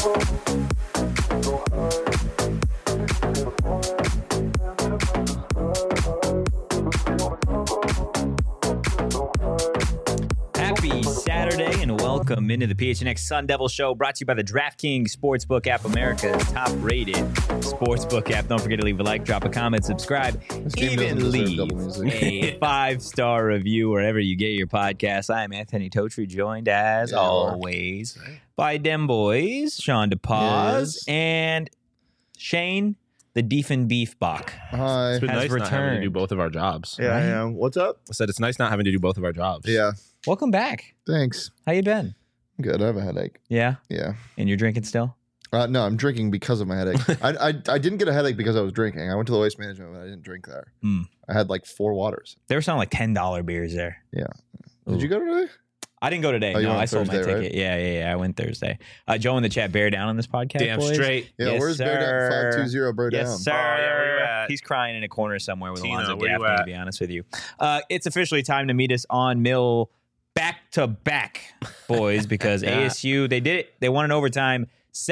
Happy Saturday and welcome into the PHNX Sun Devil Show, brought to you by the DraftKings Sportsbook app, America's top-rated sportsbook app. Don't forget to leave a like, drop a comment, subscribe, even leave a 5-star review wherever you get your podcasts. I am Anthony Totri, joined as always by Dem Boys, Sean DePaz, and Shane, the Diefenbeefbach. Hi. It's been nice not having to returned. do both of our jobs. Yeah, I am. What's up? I said it's nice not having to do both of our jobs. Yeah. Welcome back. Thanks. How you been? Good. I have a headache. Yeah? Yeah. And you're drinking still? No, I'm drinking because of my headache. I didn't get a headache because I was drinking. I went to the waste management, but I didn't drink there. I had like 4 waters. There were some like $10 beers there. Yeah. Did you go today? I didn't go today. Oh, you No, went I sold my Thursday, ticket. right? Yeah. I went Thursday. Joe in the chat, bear down on this podcast, Damn boys. straight. Yeah, Yes, where's Bear Down? sir. 520 Bear Down. Yes, sir. Oh, yeah, where you at? He's crying in a corner somewhere with Tina, Alonzo where you Gaffney, to at? be honest with you. It's officially time to meet us on Mill back-to-back, boys, because ASU, they did it. They won in overtime,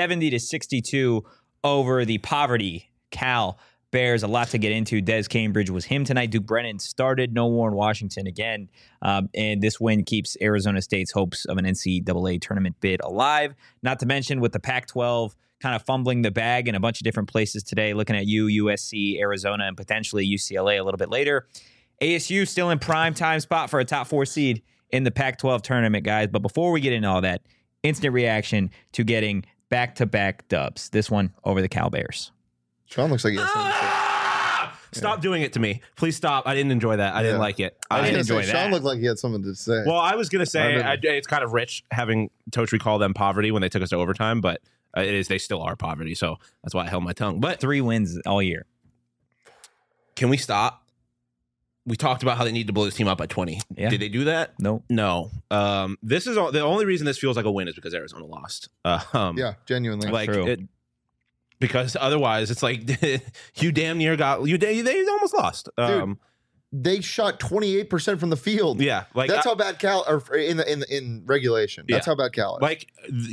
70-62 over the poverty Cal Bears. A lot to get into. Des Cambridge was him tonight. Duke Brennan started. No Warren Washington again. And this win keeps Arizona State's hopes of an NCAA tournament bid alive. Not to mention with the Pac-12 kind of fumbling the bag in a bunch of different places today, looking at USC, Arizona, and potentially UCLA a little bit later. ASU still in prime time spot for a top 4 seed in the Pac-12 tournament, guys. But before we get into all that, instant reaction to getting back-to-back dubs. This one over the Cal Bears. Sean looks like he has something to say. Stop doing it to me. Please stop. I didn't enjoy that. I didn't like it. I didn't was gonna enjoy say, Sean that. looked like he had something to say. Well, I was going to say I didn't. it's kind of rich having Totri call them poverty when they took us to overtime, but they still are poverty. So that's why I held my tongue. But 3 wins all year. can we stop? We talked about how they need to blow this team up by 20. Yeah. Did they do that? Nope. No. This is the only reason this feels like a win is because Arizona lost. Yeah, genuinely. Like true. because otherwise it's like you damn near got they almost lost. Dude, they shot 28% from the field. Yeah, like That's how bad Cal or in regulation. That's Yeah. how bad Cal is. like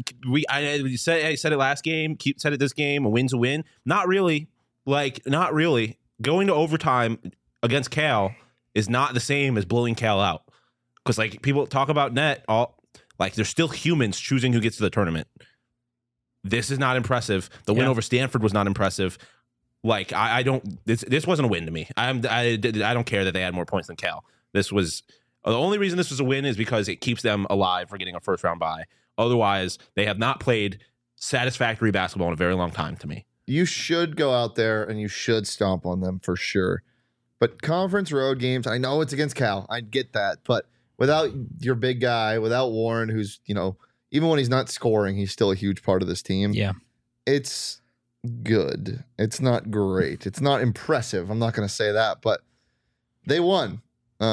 I said it last game, said it this game, a win's a win. Not really. Like not really. Going to overtime against Cal is not the same as blowing Cal out. Because like people talk about net, like there's still humans choosing who gets to the tournament. This is not impressive. The win over Stanford was not impressive. Like I don't. This wasn't a win to me. I don't care that they had more points than Cal. This was the only reason this was a win is because it keeps them alive for getting a first round bye. Otherwise, they have not played satisfactory basketball in a very long time to me. You should go out there and you should stomp on them for sure. But conference road games, I know it's against Cal. I get that. But without your big guy, without Warren, who's, even when he's not scoring, he's still a huge part of this team. Yeah. It's good. It's not great. It's not impressive. I'm not going to say that. But they won.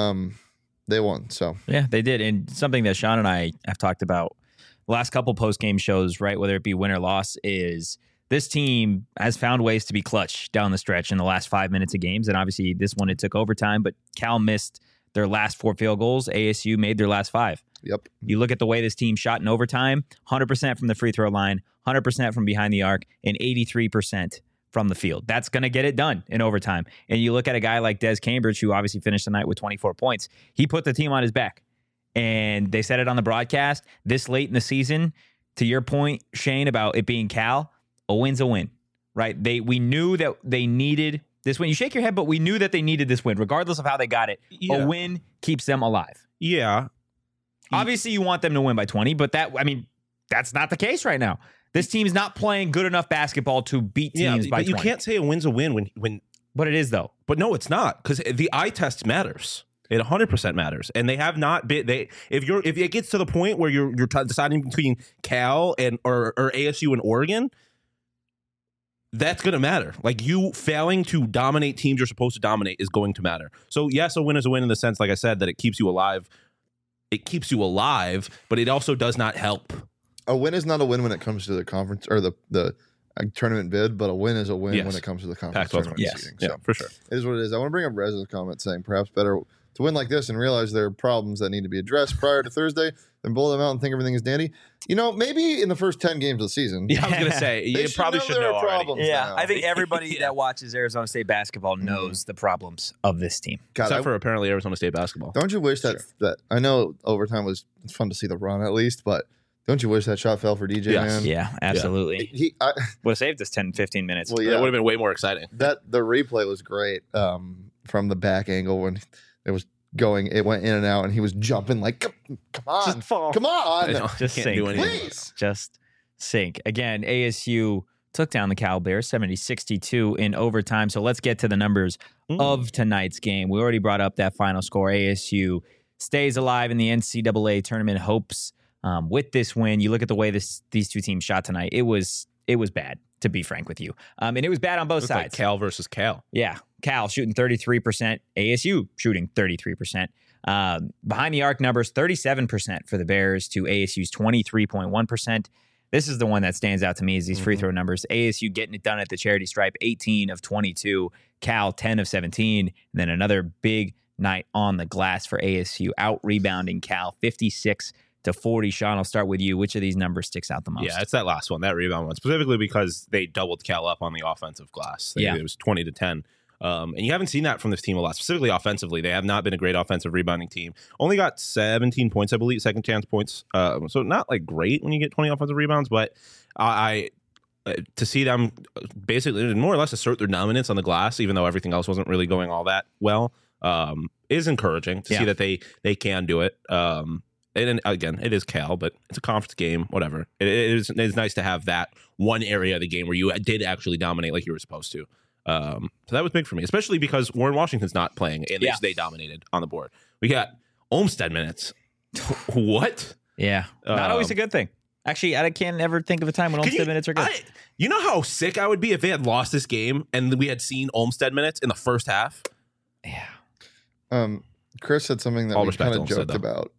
They won. So, Yeah, they did. And something that Sean and I have talked about the last couple post-game shows, right, whether it be win or loss, is this team has found ways to be clutch down the stretch in the last 5 minutes of games. And obviously this one, it took overtime, but Cal missed their last 4 field goals. ASU made their last 5. yep. You look at the way this team shot in overtime, 100% from the free throw line, 100% from behind the arc, and 83% from the field. That's going to get it done in overtime. And you look at a guy like Des Cambridge, who obviously finished the night with 24 points. He put the team on his back. And they said it on the broadcast this late in the season. To your point, Shane, about it being Cal, a win's a win, right? We knew that they needed this win. You shake your head, but we knew that they needed this win, regardless of how they got it. Yeah. A win keeps them alive. Yeah. Obviously, you want them to win by 20, but that's not the case right now. This team's not playing good enough basketball to beat teams by but 20. you can't say a win's a win when. But it is, though. But no, it's not, because the eye test matters. It 100% matters, and they have not been. If it gets to the point where you're deciding between Cal and or ASU and Oregon, that's going to matter. Like, you failing to dominate teams you're supposed to dominate is going to matter. So yes, a win is a win in the sense, like I said, that it keeps you alive. It keeps you alive, but it also does not help. A win is not a win when it comes to the conference or the tournament bid, but a win is a win when it comes to the conference Pac-12 tournament tournament. seeding. Yeah, So for sure. it is what it is. I want to bring up Rez's comment saying perhaps better to win like this and realize there are problems that need to be addressed prior to Thursday, then blow them out and think everything is dandy. Maybe in the first 10 games of the season. Yeah, I was going to say, you probably should know already. Problems now. I think everybody that watches Arizona State basketball knows the problems of this team. God, Except for apparently Arizona State basketball. Don't you wish that I know overtime was fun to see the run at least, but don't you wish that shot fell for DJ, man? Yeah, absolutely. Would have saved us 10, 15 minutes. Well, It would have been way more exciting. The replay was great from the back angle when it was going. It went in and out, and he was jumping like, come on, Just fall. Come on. Just Can't sink. do anything. Please. Just sink. Again, ASU took down the Cal Bears 70-62 in overtime. So let's get to the numbers of tonight's game. We already brought up that final score. ASU stays alive in the NCAA tournament hopes with this win. You look at the way these two teams shot tonight. It was bad, to be frank with you. And it was bad on both sides. Like Cal versus Cal. Yeah. Cal shooting 33%, ASU shooting 33%. Behind the arc numbers, 37% for the Bears to ASU's 23.1%. This is the one that stands out to me is these free throw numbers. ASU getting it done at the charity stripe, 18 of 22. Cal, 10 of 17. And then another big night on the glass for ASU, out-rebounding Cal, 56-40. Sean, I'll start with you. Which of these numbers sticks out the most? Yeah, it's that last one, that rebound one, specifically because they doubled Cal up on the offensive glass. It was 20-10. And you haven't seen that from this team a lot, specifically offensively. They have not been a great offensive rebounding team. Only got 17 points, I believe, second chance points. So not like great when you get 20 offensive rebounds, but to see them basically more or less assert their dominance on the glass, even though everything else wasn't really going all that well, is encouraging to see that they can do it. And again, it is Cal, but it's a conference game, whatever. It's nice to have that one area of the game where you did actually dominate like you were supposed to. So that was big for me, especially because Warren Washington's not playing, and they dominated on the board. We got Olmstead minutes. What? Yeah. Not always a good thing. Actually, I can't ever think of a time when Olmstead minutes are good. You know how sick I would be if they had lost this game and we had seen Olmstead minutes in the first half? Yeah. Chris said something that we kind of joked about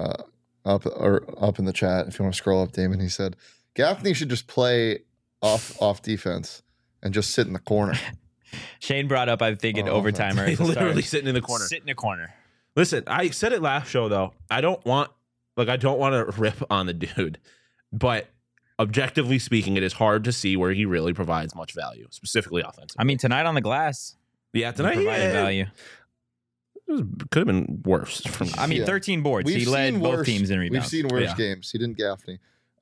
up in the chat. If you want to scroll up, Damon, he said Gaffney should just play off defense and just sit in the corner. Shane brought up, I think, in overtime. Literally sitting in the corner. Sit in a corner. Listen, I said it last show, though. I don't want to rip on the dude, but objectively speaking, it is hard to see where he really provides much value, specifically offensively. I mean, tonight on the glass. Yeah, tonight he provided value. Could have been worse. 13 boards. He led both teams in rebounds. We've seen worse games. He didn't Gaffney.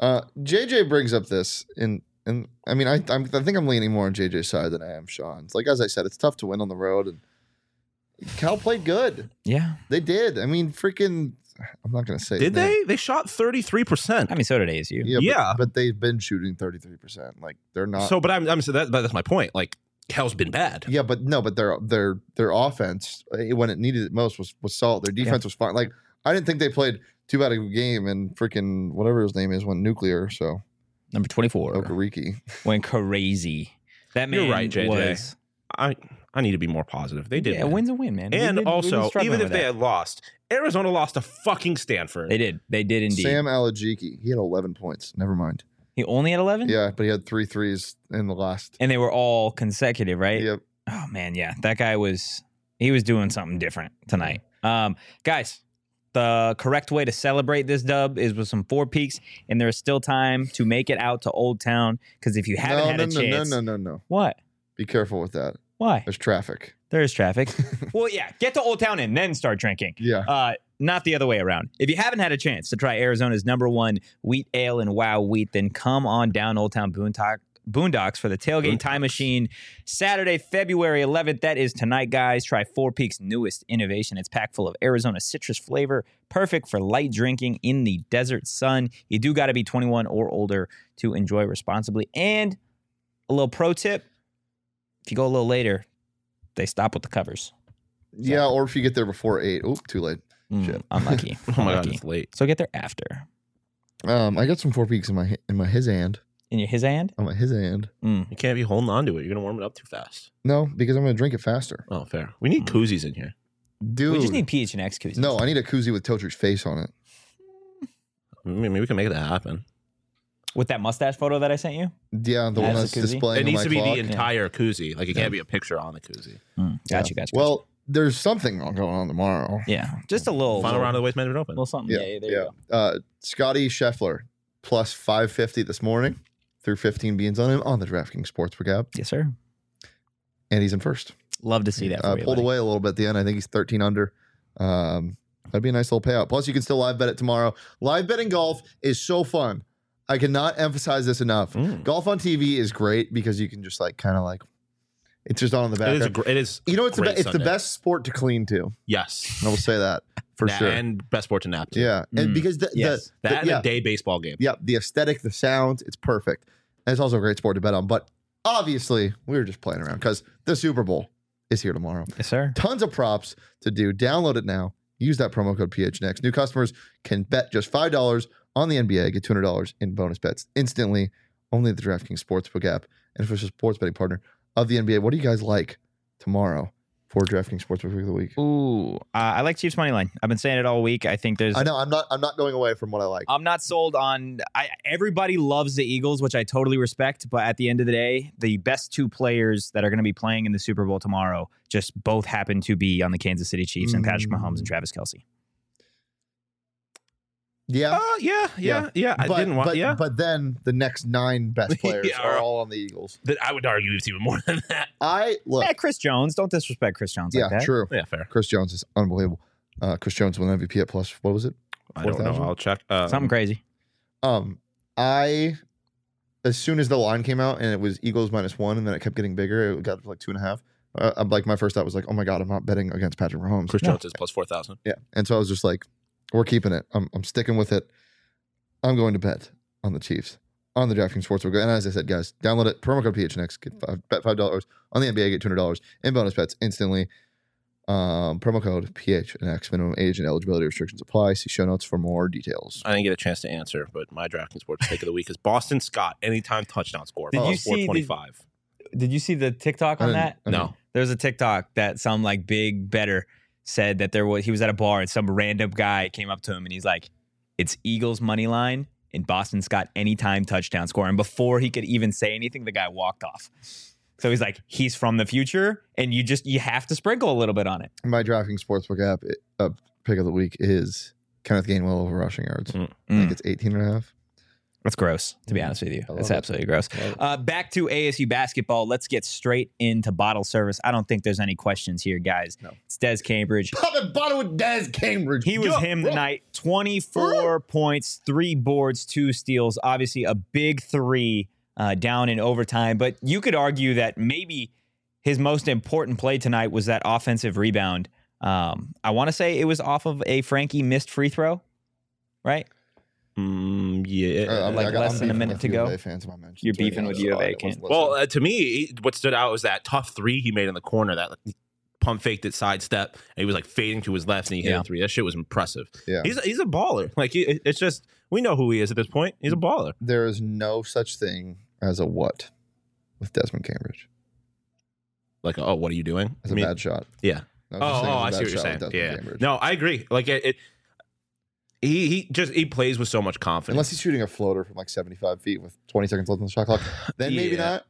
JJ brings up this and I mean, I think I'm leaning more on JJ's side than I am Sean's. Like, as I said, it's tough to win on the road, and Cal played good. Yeah, they did. I mean, freaking. I'm not going to say. Did they? They shot 33%. I mean, so did ASU. Yeah, but they've been shooting 33%. Like, they're not. So, but that's my point. Like, Cal's been bad. Yeah, but their offense when it needed it most was solid. Their defense was fine. Like, I didn't think they played too bad a game, and freaking whatever his name is went nuclear. So. Number 24. Okariki. Went crazy. That man. You're right, JJ. Was, I need to be more positive. They did. Yeah, a win's a win, man. And also, even if they had lost, Arizona lost to fucking Stanford. They did. They did indeed. Sam Alajiki. He had 11 points. Never mind. He only had 11? Yeah, but he had 3 threes in the last. And they were all consecutive, right? Yep. Oh, man, yeah. That guy was doing something different tonight. Guys, the correct way to celebrate this dub is with some Four Peaks, and there's still time to make it out to Old Town, because if you haven't had a chance... No. What? Be careful with that. Why? There's traffic. There is traffic. Well, yeah, get to Old Town and then start drinking. Yeah. Not the other way around. If you haven't had a chance to try Arizona's #1 wheat ale and wow wheat, then come on down Old Town Boondocks for the Tailgate Time Machine, Saturday, February 11th. That is tonight, guys. Try Four Peaks' newest innovation. It's packed full of Arizona citrus flavor, perfect for light drinking in the desert sun. You do got to be 21 or older to enjoy responsibly. And a little pro tip, if you go a little later, they stop with the covers. Yeah, or if you get there before 8. Oop, too late. Shit. Unlucky. Oh my God, it's late. So get there after. I got some Four Peaks in my his hand. In your his hand? On my his hand. You can't be holding on to it. You're gonna warm it up too fast. No, because I'm gonna drink it faster. Oh, fair. We need koozies in here. Dude. We just need PHNX koozies. No, I need a koozie with Totri's face on it. Maybe we can make that happen. With that mustache photo that I sent you? Yeah, the one that's displaying It needs to be clock. the entire koozie. Like, it can't be a picture on the koozie. Gotcha. Well, there's something going on tomorrow. Yeah, just a little Final round of the Waste Management Open. little something. Yeah, there you go. Scotty Scheffler plus 550 this morning. Threw 15 beans on him on the DraftKings Sportsbook app, Yes, sir. and he's in first. Love to see that. For you, Pulled buddy. away a little bit at the end. I think he's 13 under. That'd be a nice little payout. Plus, you can still live bet it tomorrow. Live betting golf is so fun. I cannot emphasize this enough. Golf on TV is great because you can just it's just on in the background. It is. You know, it's great it's the Sunday. best sport to clean to. Yes. I will say that for sure. And best sport to nap to. Yeah, and because Yes. That and a day baseball game. the aesthetic, the sound, it's perfect. And it's also a great sport to bet on. But obviously, we were just playing around because the Super Bowl is here tomorrow. Yes, sir. Tons of props to do. Download it now. Use that promo code PHNX. New customers can bet just $5 on the NBA, get $200 in bonus bets instantly. Only the DraftKings Sportsbook app and official sports betting partner of the NBA. What do you guys like tomorrow for DraftKings Sportsbook Week of the Week? Ooh, I like Chiefs money line. I've been saying it all week. I think there's. I know I'm not going away from what I like. I'm not sold on. Everybody loves the Eagles, which I totally respect. But at the end of the day, the best two players that are going to be playing in the Super Bowl tomorrow just both happen to be on the Kansas City Chiefs and Patrick Mahomes and Travis Kelce. Yeah. But then the next 9 best players Yeah. are all on the Eagles. I would argue it's even more than that. Look. Chris Jones. Don't disrespect Chris Jones Yeah, like that. true. Yeah, fair. Chris Jones is unbelievable. Chris Jones won MVP at plus, what was it? I don't know. 4,000? I'll check. Something crazy. As soon as the line came out and it was Eagles -1 and then it kept getting bigger, it got to 2.5. I'm my first thought was oh my God, I'm not betting against Patrick Mahomes. Chris Jones is plus 4,000. Yeah. And so I was just we're keeping it. I'm sticking with it. I'm going to bet on the Chiefs on the DraftKings Sportsbook. And as I said, guys, download it. Promo code PHNX. Bet $5 on the NBA. Get $200 in bonus bets instantly. Promo code PHNX. Minimum age and eligibility restrictions apply. See show notes for more details. I didn't get a chance to answer, but my DraftKings Sports Take of the Week is Boston Scott. Anytime touchdown score. Did you see 425. Did you see the TikTok on that? No. There's a TikTok that some big better said that he was at a bar and some random guy came up to him and he's like, it's Eagles money line and Boston Scott anytime touchdown score. And before he could even say anything, the guy walked off. So he's like, he's from the future, and you have to sprinkle a little bit on it. My DraftKings Sportsbook app pick of the week is Kenneth Gainwell over rushing yards. I think it's 18.5. That's gross, to be honest with you. That's it. absolutely gross. Back to ASU basketball. Let's get straight into bottle service. I don't think there's any questions here, guys. No. It's Des Cambridge. Pop and bottle with Des Cambridge. He was him tonight. 24 points, 3 boards, 2 steals. Obviously, a big 3 down in overtime. But you could argue that maybe his most important play tonight was that offensive rebound. I want to say it was off of a Frankie missed free throw, right? Yeah. I'm less than a minute to go. Fans in my mentions. You're beefing with U of A, Kent. Well, to me, what stood out was that tough 3 he made in the corner, that pump faked it sidestep, and he was fading to his left and he hit a 3. That shit was impressive. Yeah. He's a baller. It's just, we know who he is at this point. He's a baller. There is no such thing as a what with Desmond Cambridge. What are you doing? As a bad shot. Yeah. No I such thing see as a what bad shot with you're saying. Desmond Yeah. Cambridge. No, I agree. He plays with so much confidence. Unless he's shooting a floater from 75 feet with 20 seconds left on the shot clock, then maybe not.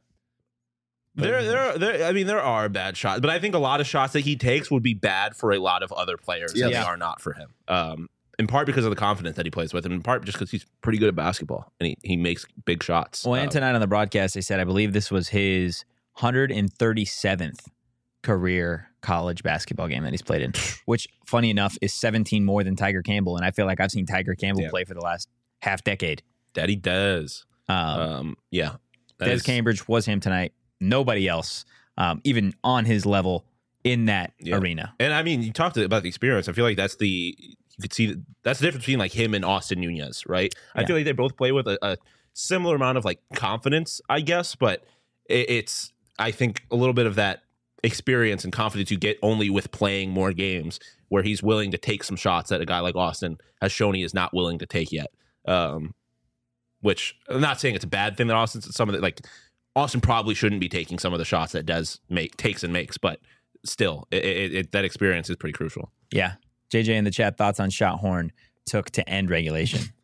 There are bad shots, but I think a lot of shots that he takes would be bad for a lot of other players, and they are not for him. In part because of the confidence that he plays with, and in part just because he's pretty good at basketball and he makes big shots. Well, and tonight on the broadcast, they said, I believe this was his 137th career college basketball game that he's played in, which, funny enough, is 17 more than Tiger Campbell. And I feel like I've seen Tiger Campbell play for the last half decade. Daddy Dez. Des Cambridge was him tonight. Nobody else, even on his level in that arena. And I mean, you talked about the experience. I feel like that's you could see that's the difference between him and Austin Nunez, right? I feel like they both play with a similar amount of confidence, I guess, but it's I think a little bit of that experience and confidence you get only with playing more games, where he's willing to take some shots that a guy like Austin has shown he is not willing to take yet. Which I'm not saying it's a bad thing that Austin probably shouldn't be taking some of the shots that Des takes and makes, but still, that experience is pretty crucial. Yeah. JJ in the chat, thoughts on shot horn took to end regulation.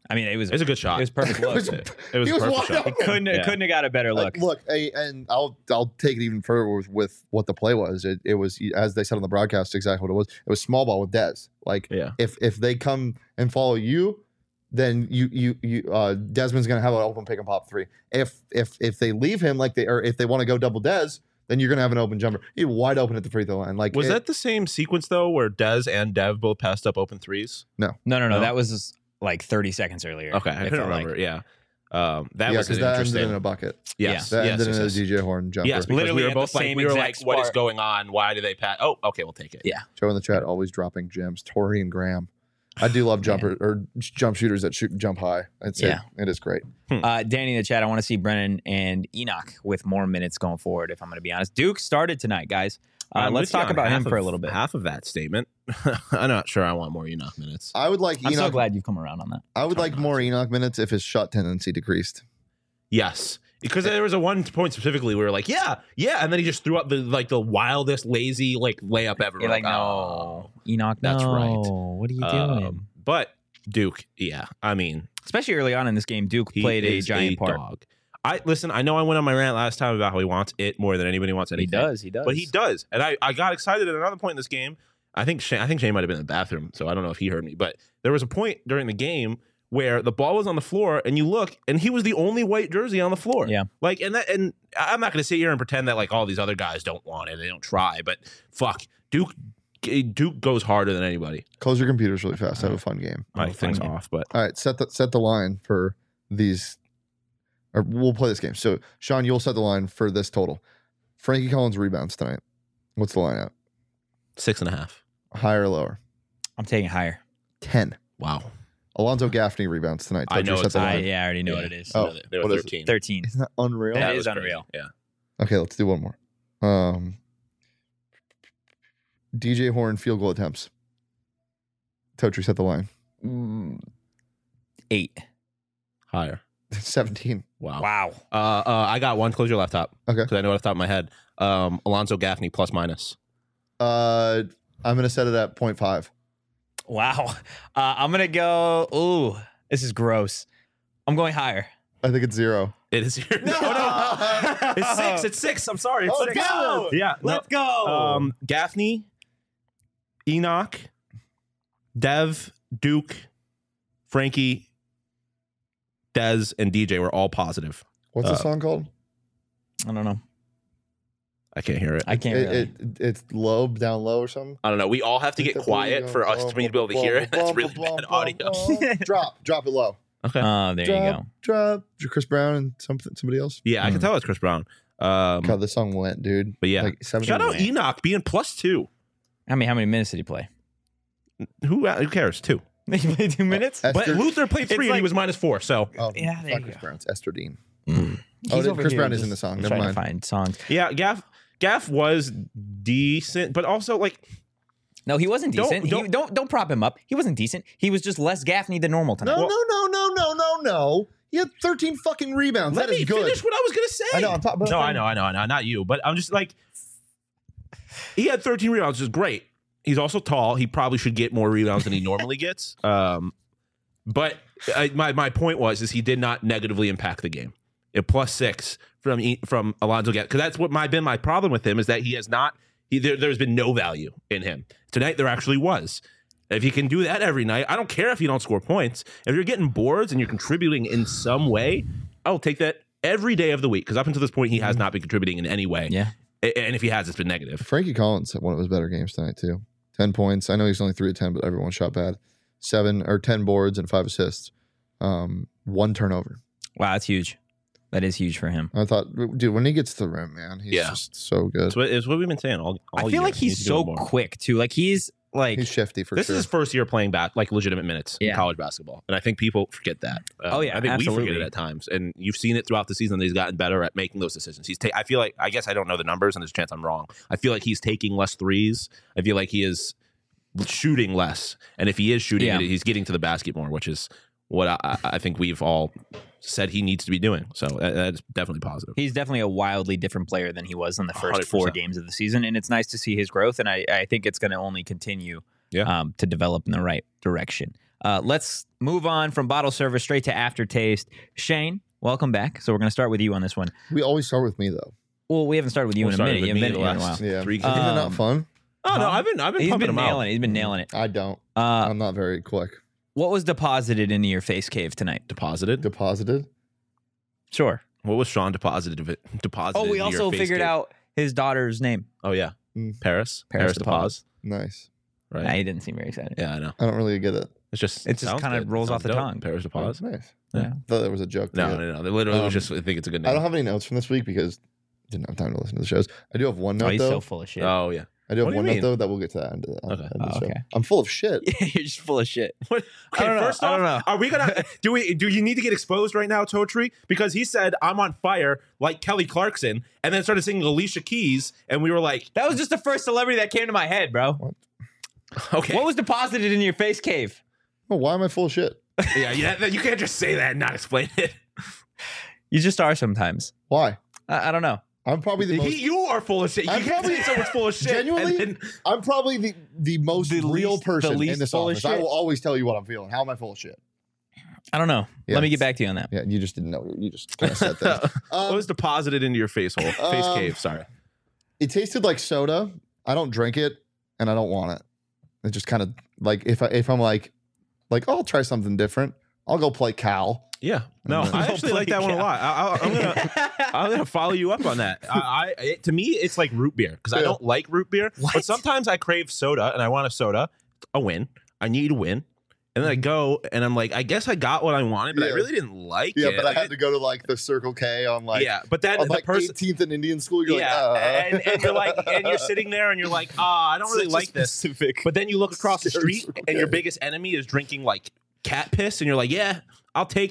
I mean, it was It's a good shot. It was perfect look. It was He a was perfect wide shot. open. Couldn't have got a better look. Look, and I'll take it even further with what the play was. It was, as they said on the broadcast, exactly what it was. It was small ball with Dez. Like, Yeah. if they come and follow you, then Desmond's gonna have an open pick and pop three. If they leave him if they want to go double Dez, then you're gonna have an open jumper. He's wide open at the free throw line. Like, Was that the same sequence though, where Dez and Dev both passed up open threes? No. That was like 30 seconds earlier. Okay, I It couldn't felt like. remember. Yeah, that was because that ended interesting. in a bucket. Yes, That yes, ended in a yes. DJ Horn jumper. Yes, because Literally we were at the both like, same we were exact like, what is spot. going on? Why do they pass? Oh, okay, we'll take it. Yeah. Joe in the chat always dropping gems. Tori and Graham. I do love jump shooters that jump high. It is great. Danny in the chat, I want to see Brennan and Enoch with more minutes going forward, if I'm going to be honest. Duke started tonight, guys. I'm Let's with you talk on about him half for a of- little bit. Half of that statement. I'm not sure I want more Enoch minutes. I would like I'm so Enoch. glad you've come around on that. I would like more Enoch minutes if his shot tendency decreased. Yes, because there was a one point specifically where we were like, yeah, and then he just threw up the wildest lazy layup ever. You're like, oh. no, Enoch, That's no. right. What are you doing? But Duke, yeah, I mean, Especially early on in this game, Duke he played a is giant part. dog. I know I went on my rant last time about how he wants it more than anybody wants anything. He does. But he does. And I got excited at another point in this game. I think Shane might have been in the bathroom, so I don't know if he heard me. But there was a point during the game where the ball was on the floor and you look and he was the only white jersey on the floor. Yeah. Like, and I'm not going to sit here and pretend that like all these other guys don't want it. They don't try, but fuck, Duke goes harder than anybody. Close your computers really fast. Have a fun game. My thing's off, but All right, set the line for these. Or we'll play this game. So, Sean, you'll set the line for this total. Frankie Collins rebounds tonight. What's the line at? 6.5. Higher or lower? I'm taking higher. 10. Wow. Alonzo Gaffney rebounds tonight. I know Set the it's line. I already know Yeah. what it is. Oh, They what were is it? 13. 13. Isn't that unreal? That That is was crazy. unreal. Yeah. Okay, let's do one more. DJ Horn field goal attempts. Totri, set the line. 8. Higher. 17. Wow. Wow. I got one. Close your laptop. Okay. Because I know it off the top of my head. Alonzo Gaffney plus minus. I'm going to set it at 0.5. Wow. I'm going to go. Ooh, this is gross. I'm going higher. I think it's 0. It is here. No. It's 6. It's 6. I'm sorry. It's Oh, 6. go. Yeah. Let's go. Gaffney, Enoch, Dev, Duke, Frankie, Dez, and DJ were all positive. What's the song called? I don't know. I can't hear it. I can't really. It's low, down low or something. I don't know. We all have to get quiet for us to be able to hear it. That's really bad audio. Drop it low. Okay. Oh, there you go. Drop. Chris Brown and somebody else. Yeah, I can tell it's Chris Brown. God, this song went, dude. But yeah. Like 70 Shout out minutes. Enoch being +2. How many minutes did he play? Who cares? 2. He played 2 minutes? Esther- But Luther played 3 It's and he like- was -4. So Oh, Yeah, it's there not you Chris go. Brown. It's Esther Dean. He's Oh, over Chris here Brown is in just the song. Never trying mind. to find songs. yeah, Gaff was decent, but also like No, he wasn't Don't- decent. Don't prop him up. He wasn't decent. He was just less Gaffney than normal tonight. No. He had 13 fucking rebounds. let That is me good. finish what I was gonna say. I know. I'm talking about. No, I know, not you, but I'm just like he had 13 rebounds, which is great. He's also tall. He probably should get more rebounds than he normally gets. But my point was he did not negatively impact the game. It +6 from Alonzo Gaffney, because that's what been my problem with him is that he has not. There's been no value in him. Tonight there actually was. If you can do that every night, I don't care if you don't score points. If you're getting boards and you're contributing in some way, I'll take that every day of the week. Because up until this point, he has not been contributing in any way. Yeah. And if he has, it's been negative. Frankie Collins had one of his better games tonight too. 10 points. I know he's only 3 of 10, but everyone shot bad. 10 boards and 5 assists. 1 turnover. Wow, that's huge. That is huge for him. I thought, dude, when he gets to the rim, man, he's just so good. It's what we've been saying all I feel year. like He needs he's to do so it more. quick too. Like he's like He's shifty for This sure. is his first year playing like legitimate minutes in Yeah. college basketball, and I think people forget that. Oh, yeah, I think we absolutely. forget it at times, and you've seen it throughout the season that he's gotten better at making those decisions. I feel like I guess I don't know the numbers, and there's a chance I'm wrong. I feel like he's taking less threes. I feel like he is shooting less, and if he is shooting, Yeah. he's getting to the basket more, which is what I think we've all said he needs to be doing. So that's definitely positive. he's definitely a wildly different player than he was in the first 4 100%. games of the season, and it's nice to see his growth. And I think it's going to only continue Yeah. to develop in the right direction. Let's move on from bottle service straight to aftertaste. Shane, welcome back. So we're going to start with you on this one. We always start with me though. Well, we haven't started with you in a minute. You haven't been here in a while. Yeah, Three isn't it not fun? Oh no, I've been He's pumping been them out. nailing it. He's been nailing it. I don't. Uh, I'm not very quick. what was deposited into your face cave tonight? Deposited. Deposited. Sure. What was Sean deposited of it? Deposited. Oh, we into your also face figured cave? out his daughter's name. Oh yeah, Mm. Paris. Paris DePaz. Nice. Right. Nah, he didn't seem very excited. Yeah, I know. I don't really get it. It's just It just sounds kinda good. rolls Sounds off the dope. tongue. Paris DePaz. Nice. Yeah. Thought there was a joke. to No, it. no, no. They literally was Um, just. I think it's a good I name. don't have any notes from this week because I didn't have time to listen to the shows. I do have one note Oh, he's though. so full of shit. Oh yeah. I do have What do you one note mean? though that we'll get to that end of the, Okay. end of the Oh, show. okay. I'm full of shit. You're just full of shit. What? I Okay, don't know. first I off, don't know. are we gonna do you need to get exposed right now, Totri? Because he said I'm on fire like Kelly Clarkson, and then started singing Alicia Keys, and we were like, That was just the first celebrity that came to my head, bro. okay, What was deposited in your face cave? Oh, why am I full of shit? yeah, you can't just say that and not explain it. You just are sometimes. Why? I don't know. I'm probably the most. You are full of shit. You I'm can't probably- say someone's full of shit. Genuinely? and then- I'm probably the most The real least- person the least in this full of office. I shit? will always tell you what I'm feeling. How am I full of shit? I don't know. Yeah. Let me get back to you on that. Yeah, you just didn't know. You just kind of said that. what was deposited into your face hole? Face cave. Sorry. It tasted like soda. I don't drink it, and I don't want it. It just kind of like if I'm like oh, I'll try something different. I'll go play Cal. Yeah. No, Go I actually like that one a lot. I'm gonna follow you up on that. To me, it's like root beer because I Yeah. don't like root beer, What? but sometimes I crave soda and I want a soda, a win. I need a win, and then I go and I'm like, I guess I got what I wanted, but I Yeah. really didn't like Yeah, it. but I Like, had to go to like the Circle K on like yeah, but then on the like person. 18th and Indian School. You're Yeah, like, and you're like, and you're sitting there, and you're like, I don't really Such a like this. specific- But then you look across the Scary street, Circle and your K. biggest enemy is drinking like cat piss, and you're like, yeah, I'll take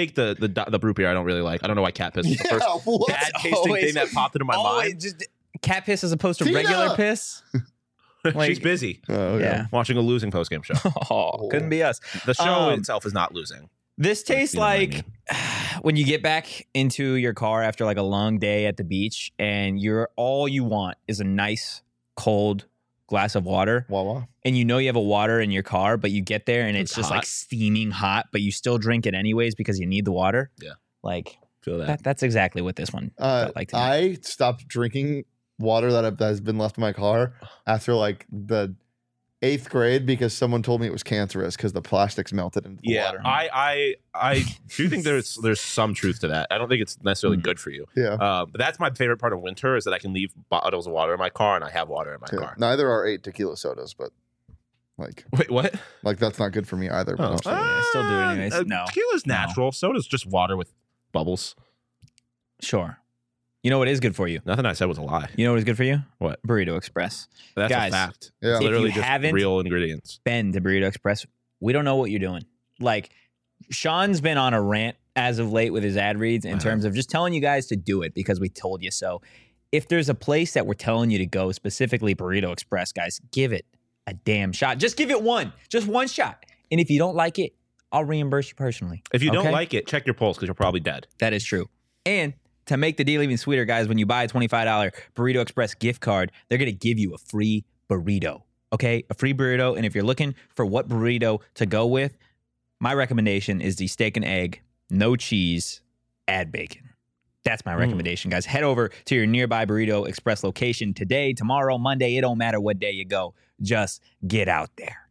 the root beer I don't really like. I don't know why cat piss is the yeah, first what? bad tasting always- thing that popped into my mind. Just cat piss as opposed to Tina! regular piss. like- She's busy Oh, okay. Yeah. watching a losing postgame show. Oh, couldn't be us. The show Um, itself is not losing. This tastes You know what I like mean. when you get back into your car after like a long day at the beach and all you want is a nice cold glass of water Wawa. and you know you have a water in your car, but you get there and it's It's just hot. like steaming hot, but you still drink it anyways because you need the water. Yeah. Like Feel that. that's exactly what this one felt like to me. I stopped drinking water that has been left in my car after like the 8th grade because someone told me it was cancerous because the plastics melted into the Yeah, water. I do think there's some truth to that. I don't think it's necessarily Mm. good for you. Yeah. But that's my favorite part of winter is that I can leave bottles of water in my car and I have water in my Yeah. car. Neither are 8 tequila sodas, but Wait, what? that's not good for me either. But Oh. I'm saying- I still do it anyways. No. Tequila's natural. Soda's just water with bubbles. Sure. You know what is good for you? Nothing I said was a lie. You know what is good for you? What? Burrito Express. That's Guys, a fact. Yeah. It's If literally you just haven't- real ingredients. Been to Burrito Express. We don't know what you're doing. Like, Sean's been on a rant as of late with his ad reads in terms of just telling you guys to do it because we told you so. If there's a place that we're telling you to go, specifically Burrito Express, guys, give it a damn shot. Just give it one. Just one shot. And if you don't like it, I'll reimburse you personally. If you don't Okay? like it, check your pulse because you're probably dead. That is true. And to make the deal even sweeter, guys, when you buy a $25 Burrito Express gift card, they're going to give you a free burrito. Okay? A free burrito. And if you're looking for what burrito to go with, my recommendation is the steak and egg, no cheese, add bacon. That's my recommendation, guys. Head over to your nearby Burrito Express location today, tomorrow, Monday. It don't matter what day you go. Just get out there.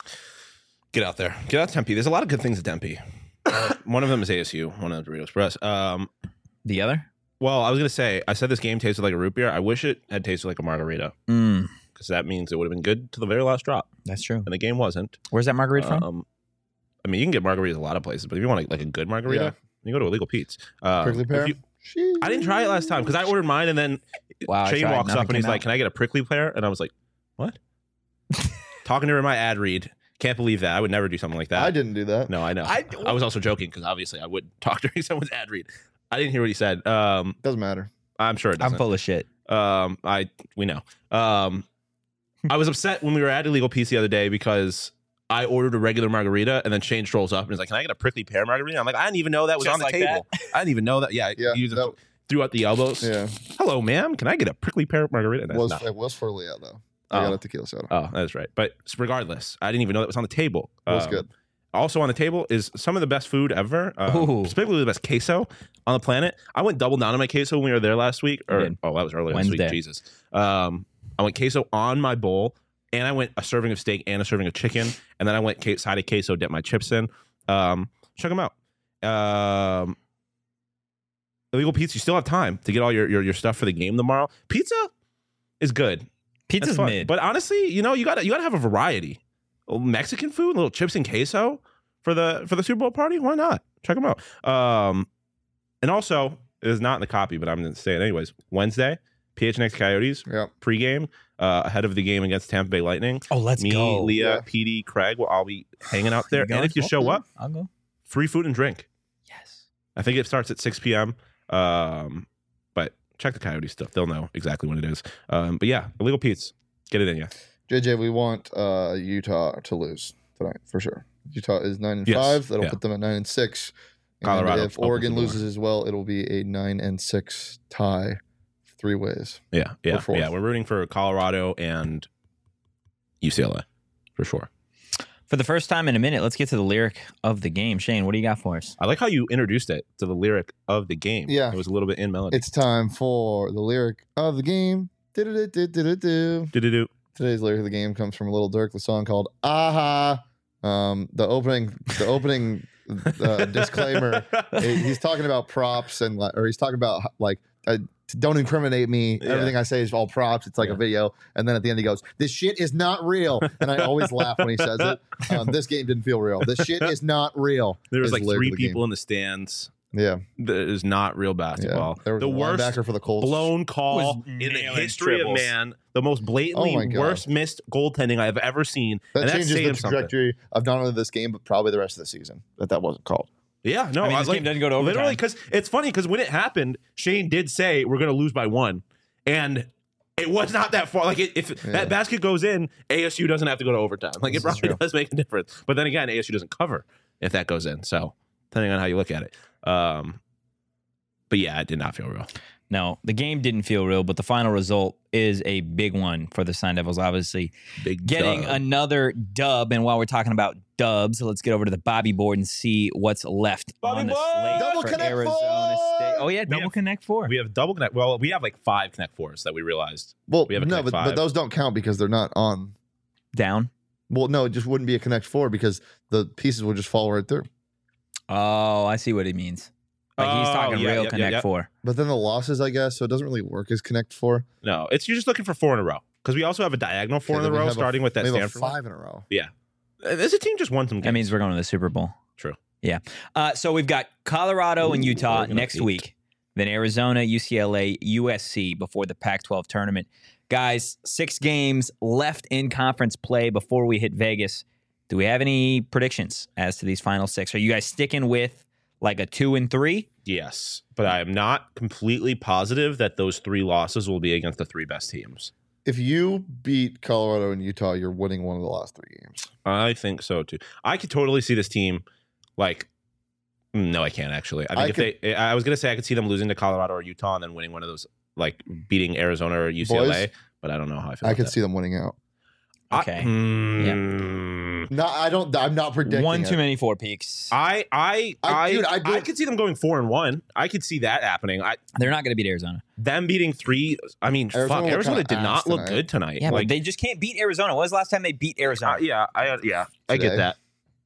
Get out there. Get out to Tempe. There's a lot of good things at Tempe. One of them is ASU. One of them is Burrito Express. The other? Well, I was gonna say I said this game tasted like a root beer. I wish it had tasted like a margarita because that means it would have been good to the very last drop, That's true. and the game wasn't. Where's that margarita from? I mean, you can get margaritas a lot of places, but if you want like a good margarita, Yeah. you go to Illegal Pete's. Prickly If pear. you- I didn't try it last time because I ordered mine, and then Wow, I Shane tried. walks Nothing up and he's came like, out. "Can I get a prickly pear?" And I was like, "What?" Talking to her in my ad read. Can't believe that. I would never do something like that. I didn't do that. No, I know. I was also joking because obviously I would talk during someone's ad read. I didn't hear what he said. Doesn't matter. I'm sure it doesn't. I'm full of shit. We know. I was upset when we were at Illegal Pete's the other day because I ordered a regular margarita and then Shane strolls up and he's like, "Can I get a prickly pear margarita?" I'm like, "I didn't even know that was Just on the like table. I didn't even know that." Yeah, Yeah, you just that- threw out the elbows. Yeah, "Hello, ma'am. Can I get a prickly pear margarita?" And that's not- it was for Leah though. I Oh. got a tequila soda. Oh, that's right. But regardless, I didn't even know that was on the table. It was good. also on the table is some of the best food ever, Ooh. specifically the best queso on the planet. I went double down on my queso when we were there last week. You did. That was earlier this Wednesday. week. Jesus. I went queso on my bowl, and I went a serving of steak and a serving of chicken, and then I went side of queso, dipped my chips in. Check them out. Illegal Pizza. You still have time to get all your stuff for the game tomorrow. Pizza is good. Pizza's That's fun. mid. But honestly, you gotta have a variety. Mexican food, little chips and queso for the Super Bowl party. Why not? Check them out. And also, it is not in the copy, but I'm going to say it anyways. Wednesday, PHNX Coyotes Yep. pregame ahead of the game against Tampa Bay Lightning. Oh, let's Me, go. Leah, Yeah. PD, Craig will all be hanging out there. You going? And if you show up, I'll go. free food and drink. Yes. I think it starts at 6 p.m. But check the Coyote stuff. They'll know exactly when it is. But yeah, Illegal Pete's. Get it in you. JJ, we want Utah to lose tonight for sure. Utah is 9-5. Yes. That'll Yeah. put them at 9-6. And Colorado if opens Oregon the door. loses as well, it'll be a 9-6 tie, 3 ways. Yeah. Or fourth. Yeah. We're rooting for Colorado and UCLA for sure. For the first time in a minute, let's get to the lyric of the game. Shane, what do you got for us? I like how you introduced it to the lyric of the game. Yeah. It was a little bit in melody. It's time for the lyric of the game. Do-do-do-do-do-do. Do-do-do. Today's lyric of the game comes from Little Dirk, the song called "Aha." The opening disclaimer. He's talking about props or he's talking about don't incriminate me. Yeah. Everything I say is all props. It's like a video, and then at the end he goes, "This shit is not real." And I always laugh when he says it. This game didn't feel real. This shit is not real. There was is like the lyric 3 of the game. people in the stands. Yeah, That is not real basketball. yeah. There was The a worst linebacker for the Colts. blown call Was in the nailing history triples. of man. The most blatantly Oh my God. worst missed goaltending I've ever seen. That and that's changes the saying something. trajectory of not only this game but probably the rest of the season. That wasn't called. Yeah, no, I mean, I this like, game doesn't go to overtime. literally because it's funny because when it happened, Shane did say we're going to lose by 1, and it was not that far. Like if that basket goes in, ASU doesn't have to go to overtime. Like This it is probably true. does make a difference. But then again, ASU doesn't cover if that goes in. So depending on how you look at it. But yeah, it did not feel real. No, the game didn't feel real, but the final result is a big one for the Sun Devils, obviously. Big Getting dub. another dub. And while we're talking about dubs, let's get over to the Bobby board and see what's left Bobby on the board! slate Double for Connect Arizona Four! State. Oh, yeah, double have- Connect 4. We have double connect. Well, we have like 5 connect 4s that we realized. Well, We have a no, Connect but 5. those don't count because they're not on. Down. Well, no, it just wouldn't be a Connect 4 because the pieces would just fall right through. Oh, I see what he means. Like he's Oh, talking yeah, real yeah, Connect yeah. 4. But then the losses, I guess, so it doesn't really work as Connect 4. No, you're just looking for 4 in a row because we also have a diagonal 4 Okay, in then a we row, have starting with that we have a Stanford one. 5 in a row. This a team just won some games. That means we're going to the Super Bowl. True. Yeah. So we've got Colorado and Ooh, Utah Oregon next upbeat. week. Then Arizona, UCLA, USC before the Pac-12 tournament. Guys, 6 games left in conference play before we hit Vegas. Do we have any predictions as to these final 6? Are you guys sticking with like a 2 and 3? Yes, but I am not completely positive that those 3 losses will be against the 3 best teams. If you beat Colorado and Utah, you're winning one of the last 3 games. I think so too. I could totally see this team like. No, I can't actually. I think I was gonna say I could see them losing to Colorado or Utah and then winning one of those, like beating Arizona or UCLA. Boys, but I don't know how I feel. I about could that. see them winning out. Okay. No, I'm not predicting One it. too many 4 peaks. Dude, I I could see them going 4-1. I could see that happening. They're not going to beat Arizona. Them beating 3. I mean, Arizona fuck. looked Arizona kinda did not ass look tonight. good tonight. Yeah, like, but they just can't beat Arizona. When was the last time they beat Arizona? I get Today. that.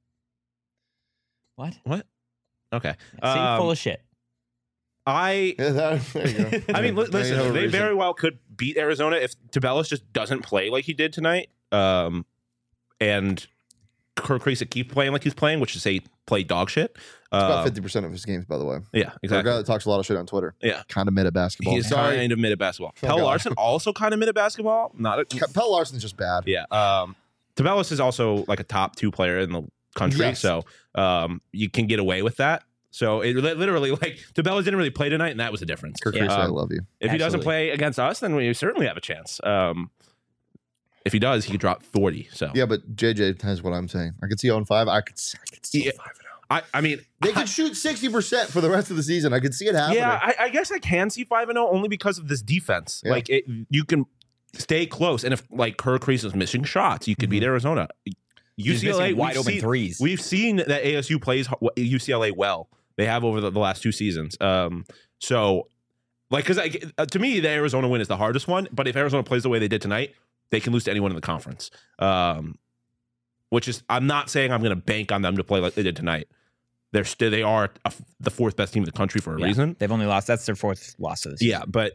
What? Okay. See, full of shit. Yeah, there you go. I mean, Now you listen, have a they reason. very well could beat Arizona if Tabellis just doesn't play like he did tonight. And Kirk Creasy keep playing like he's playing, which is say play dog shit. It's about 50% of his games, by the way. Yeah, For a exactly. guy that talks a lot of shit on Twitter. Yeah. Kind of mid at basketball. He's Sorry. kind of mid at basketball. Oh, Pell God. Larson also kind of mid at basketball. Not a, Pell Larson's just bad. yeah. Tabellis is also like a top 2 player in the country, Yes. so you can get away with that. So it literally like Tabellis didn't really play tonight, and that was the difference. Kirk Yeah. Creasy, I love you. If he doesn't Absolutely. play against us, then we certainly have a chance. If he does, he could drop 40. So Yeah, but JJ has what I'm saying. I could see 0-5. I could see Yeah. 5-0. I mean, They could shoot 60% for the rest of the season. I could see it happening. yeah, I guess I can see 5-0 only because of this defense. Yeah. Like you can stay close, and if like Kirk Creasy is missing shots, you could beat Arizona. He's missing wide open seen, threes. We've seen that ASU plays UCLA well. They have over the last 2 seasons. So, like, because to me, the Arizona win is the hardest one. But if Arizona plays the way they did tonight, they can lose to anyone in the conference. Which is, I'm not saying I'm going to bank on them to play like they did tonight. They are the 4th best team in the country for a reason. They've only lost. That's their 4th loss of the season. Yeah, but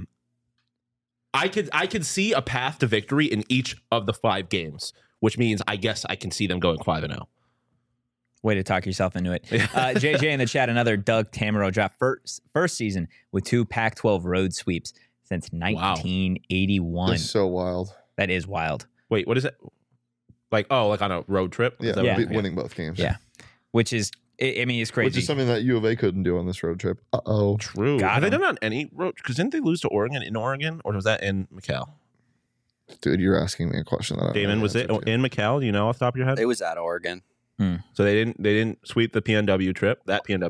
I could see a path to victory in each of the 5 games, which means I guess I can see them going 5-0. Way to talk yourself into it. JJ in the chat, another Doug Tamaro drop first season with 2 Pac-12 road sweeps since 1981. That's so wild. That is wild. Wait, what is it? Like on a road trip? Yeah, Is that what- winning both games. Yeah. Which is, I mean, it's crazy. Which is something that U of A couldn't do on this road trip. Uh-oh. True. Got Have they him. done it on any road? Because didn't they lose to Oregon in Oregon? Or was that in McAllen? Dude, you're asking me a question that I don't know Damon, the was it answer to. in McAllen? Do you know off the top of your head? It was at Oregon. So they didn't sweep the PNW trip, and then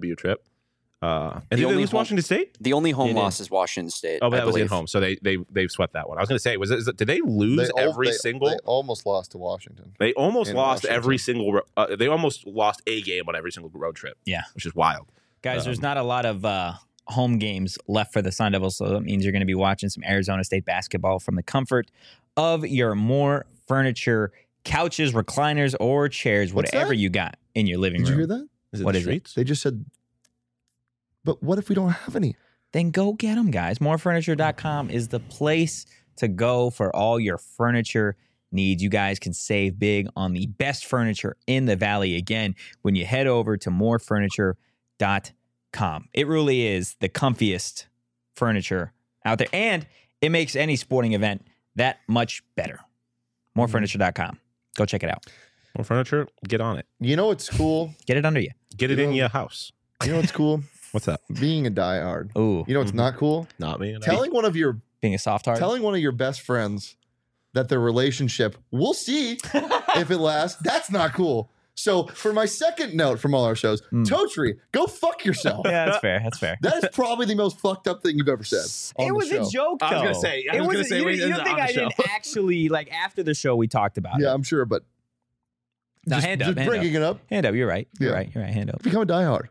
they only lose home- Washington State? The only home It loss is Washington State. Oh, but I that was at believe. home. So they've swept that one. I was going to say, did they lose They every single? They almost lost to Washington. They almost in lost Washington. every single. They almost lost a game on every single road trip. Yeah. Which is wild. Guys, there's not a lot of home games left for the Sun Devils, so that means you're going to be watching some Arizona State basketball from the comfort of your More Furniture couches, recliners, or chairs, What's whatever that? you got in your living Did you room. hear that? Is it What the is it? streets? They just said, but what if we don't have any? Then go get them, guys. Morefurniture.com is the place to go for all your furniture needs. You guys can save big on the best furniture in the Valley again when you head over to morefurniture.com. It really is the comfiest furniture out there, and it makes any sporting event that much better. Morefurniture.com. Go check it out. More furniture? Get on it. You know what's cool? Get it under you. Get it You in know- your house. You know what's cool? What's that? Being a diehard. Ooh, You know what's not cool? Not me. Telling one of your being a soft heart. best friends that their relationship, we'll see if it lasts. That's not cool. So for my second note from all our shows, Totri, go fuck yourself. Yeah, that's fair. That's fair. That is probably the most fucked up thing you've ever said. on It the was show. a joke, though. I was gonna say- I was gonna say, You, wait, you is don't it think on I the show? didn't actually, like, after the show, we talked about Yeah, it. I'm sure, but No, just, hand up, just hand bringing it up. Hand up. You're right. You're Yeah. right. You're right. Hand up. Become a diehard.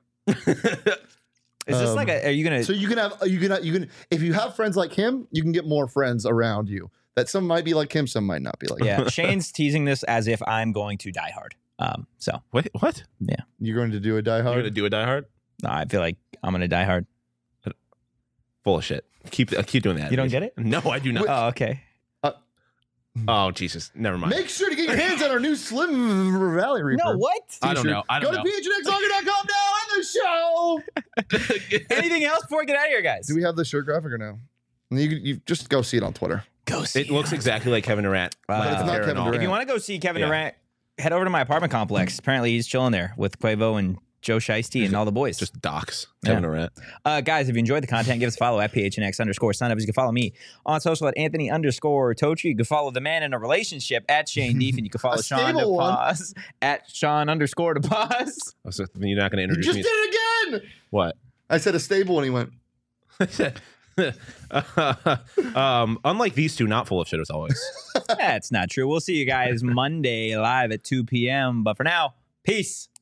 Is this like a, are you going to, So you can if you have friends like him, you can get more friends around you. That some might be like him, some might not be like him. yeah, Shane's teasing this as if I'm going to die hard. So Wait, what? You're going to do a You're diehard. gonna do a Die Hard? no, I feel like I'm going to die hard. Full of shit. Keep doing that. You don't get it? No, I do not. Oh, okay. Oh Jesus, never mind. Make sure to get your hands on our new Slim Valley Reaper. No, what? I don't know. I Go don't to know. phnxlonger.com now in the show. Anything else before we get out of here, guys? Do we have the shirt graphic or no? You just go see it on Twitter. Go see It looks exactly like Kevin Durant. Wow. But it's not Hair and Kevin all. Durant. If you want to go see Kevin Yeah. Durant, head over to my apartment complex. Apparently, he's chilling there with Quavo and Joe Shiesty and all the boys. Just docs. Yeah. Kevin Durant. Guys, if you enjoyed the content, give us a follow at PHNX_Sun. You can follow me on social at Anthony_Totri. You can follow the man in a relationship at Shane Deef, and you can follow A Sean stable one. DePaz at Sean_DePaz. Oh, so you're not going to You introduce just me. did it again. What? I said a stable and he went, Unlike these two, not full of shit as always. That's not true. We'll see you guys Monday live at 2 p.m. But for now, peace.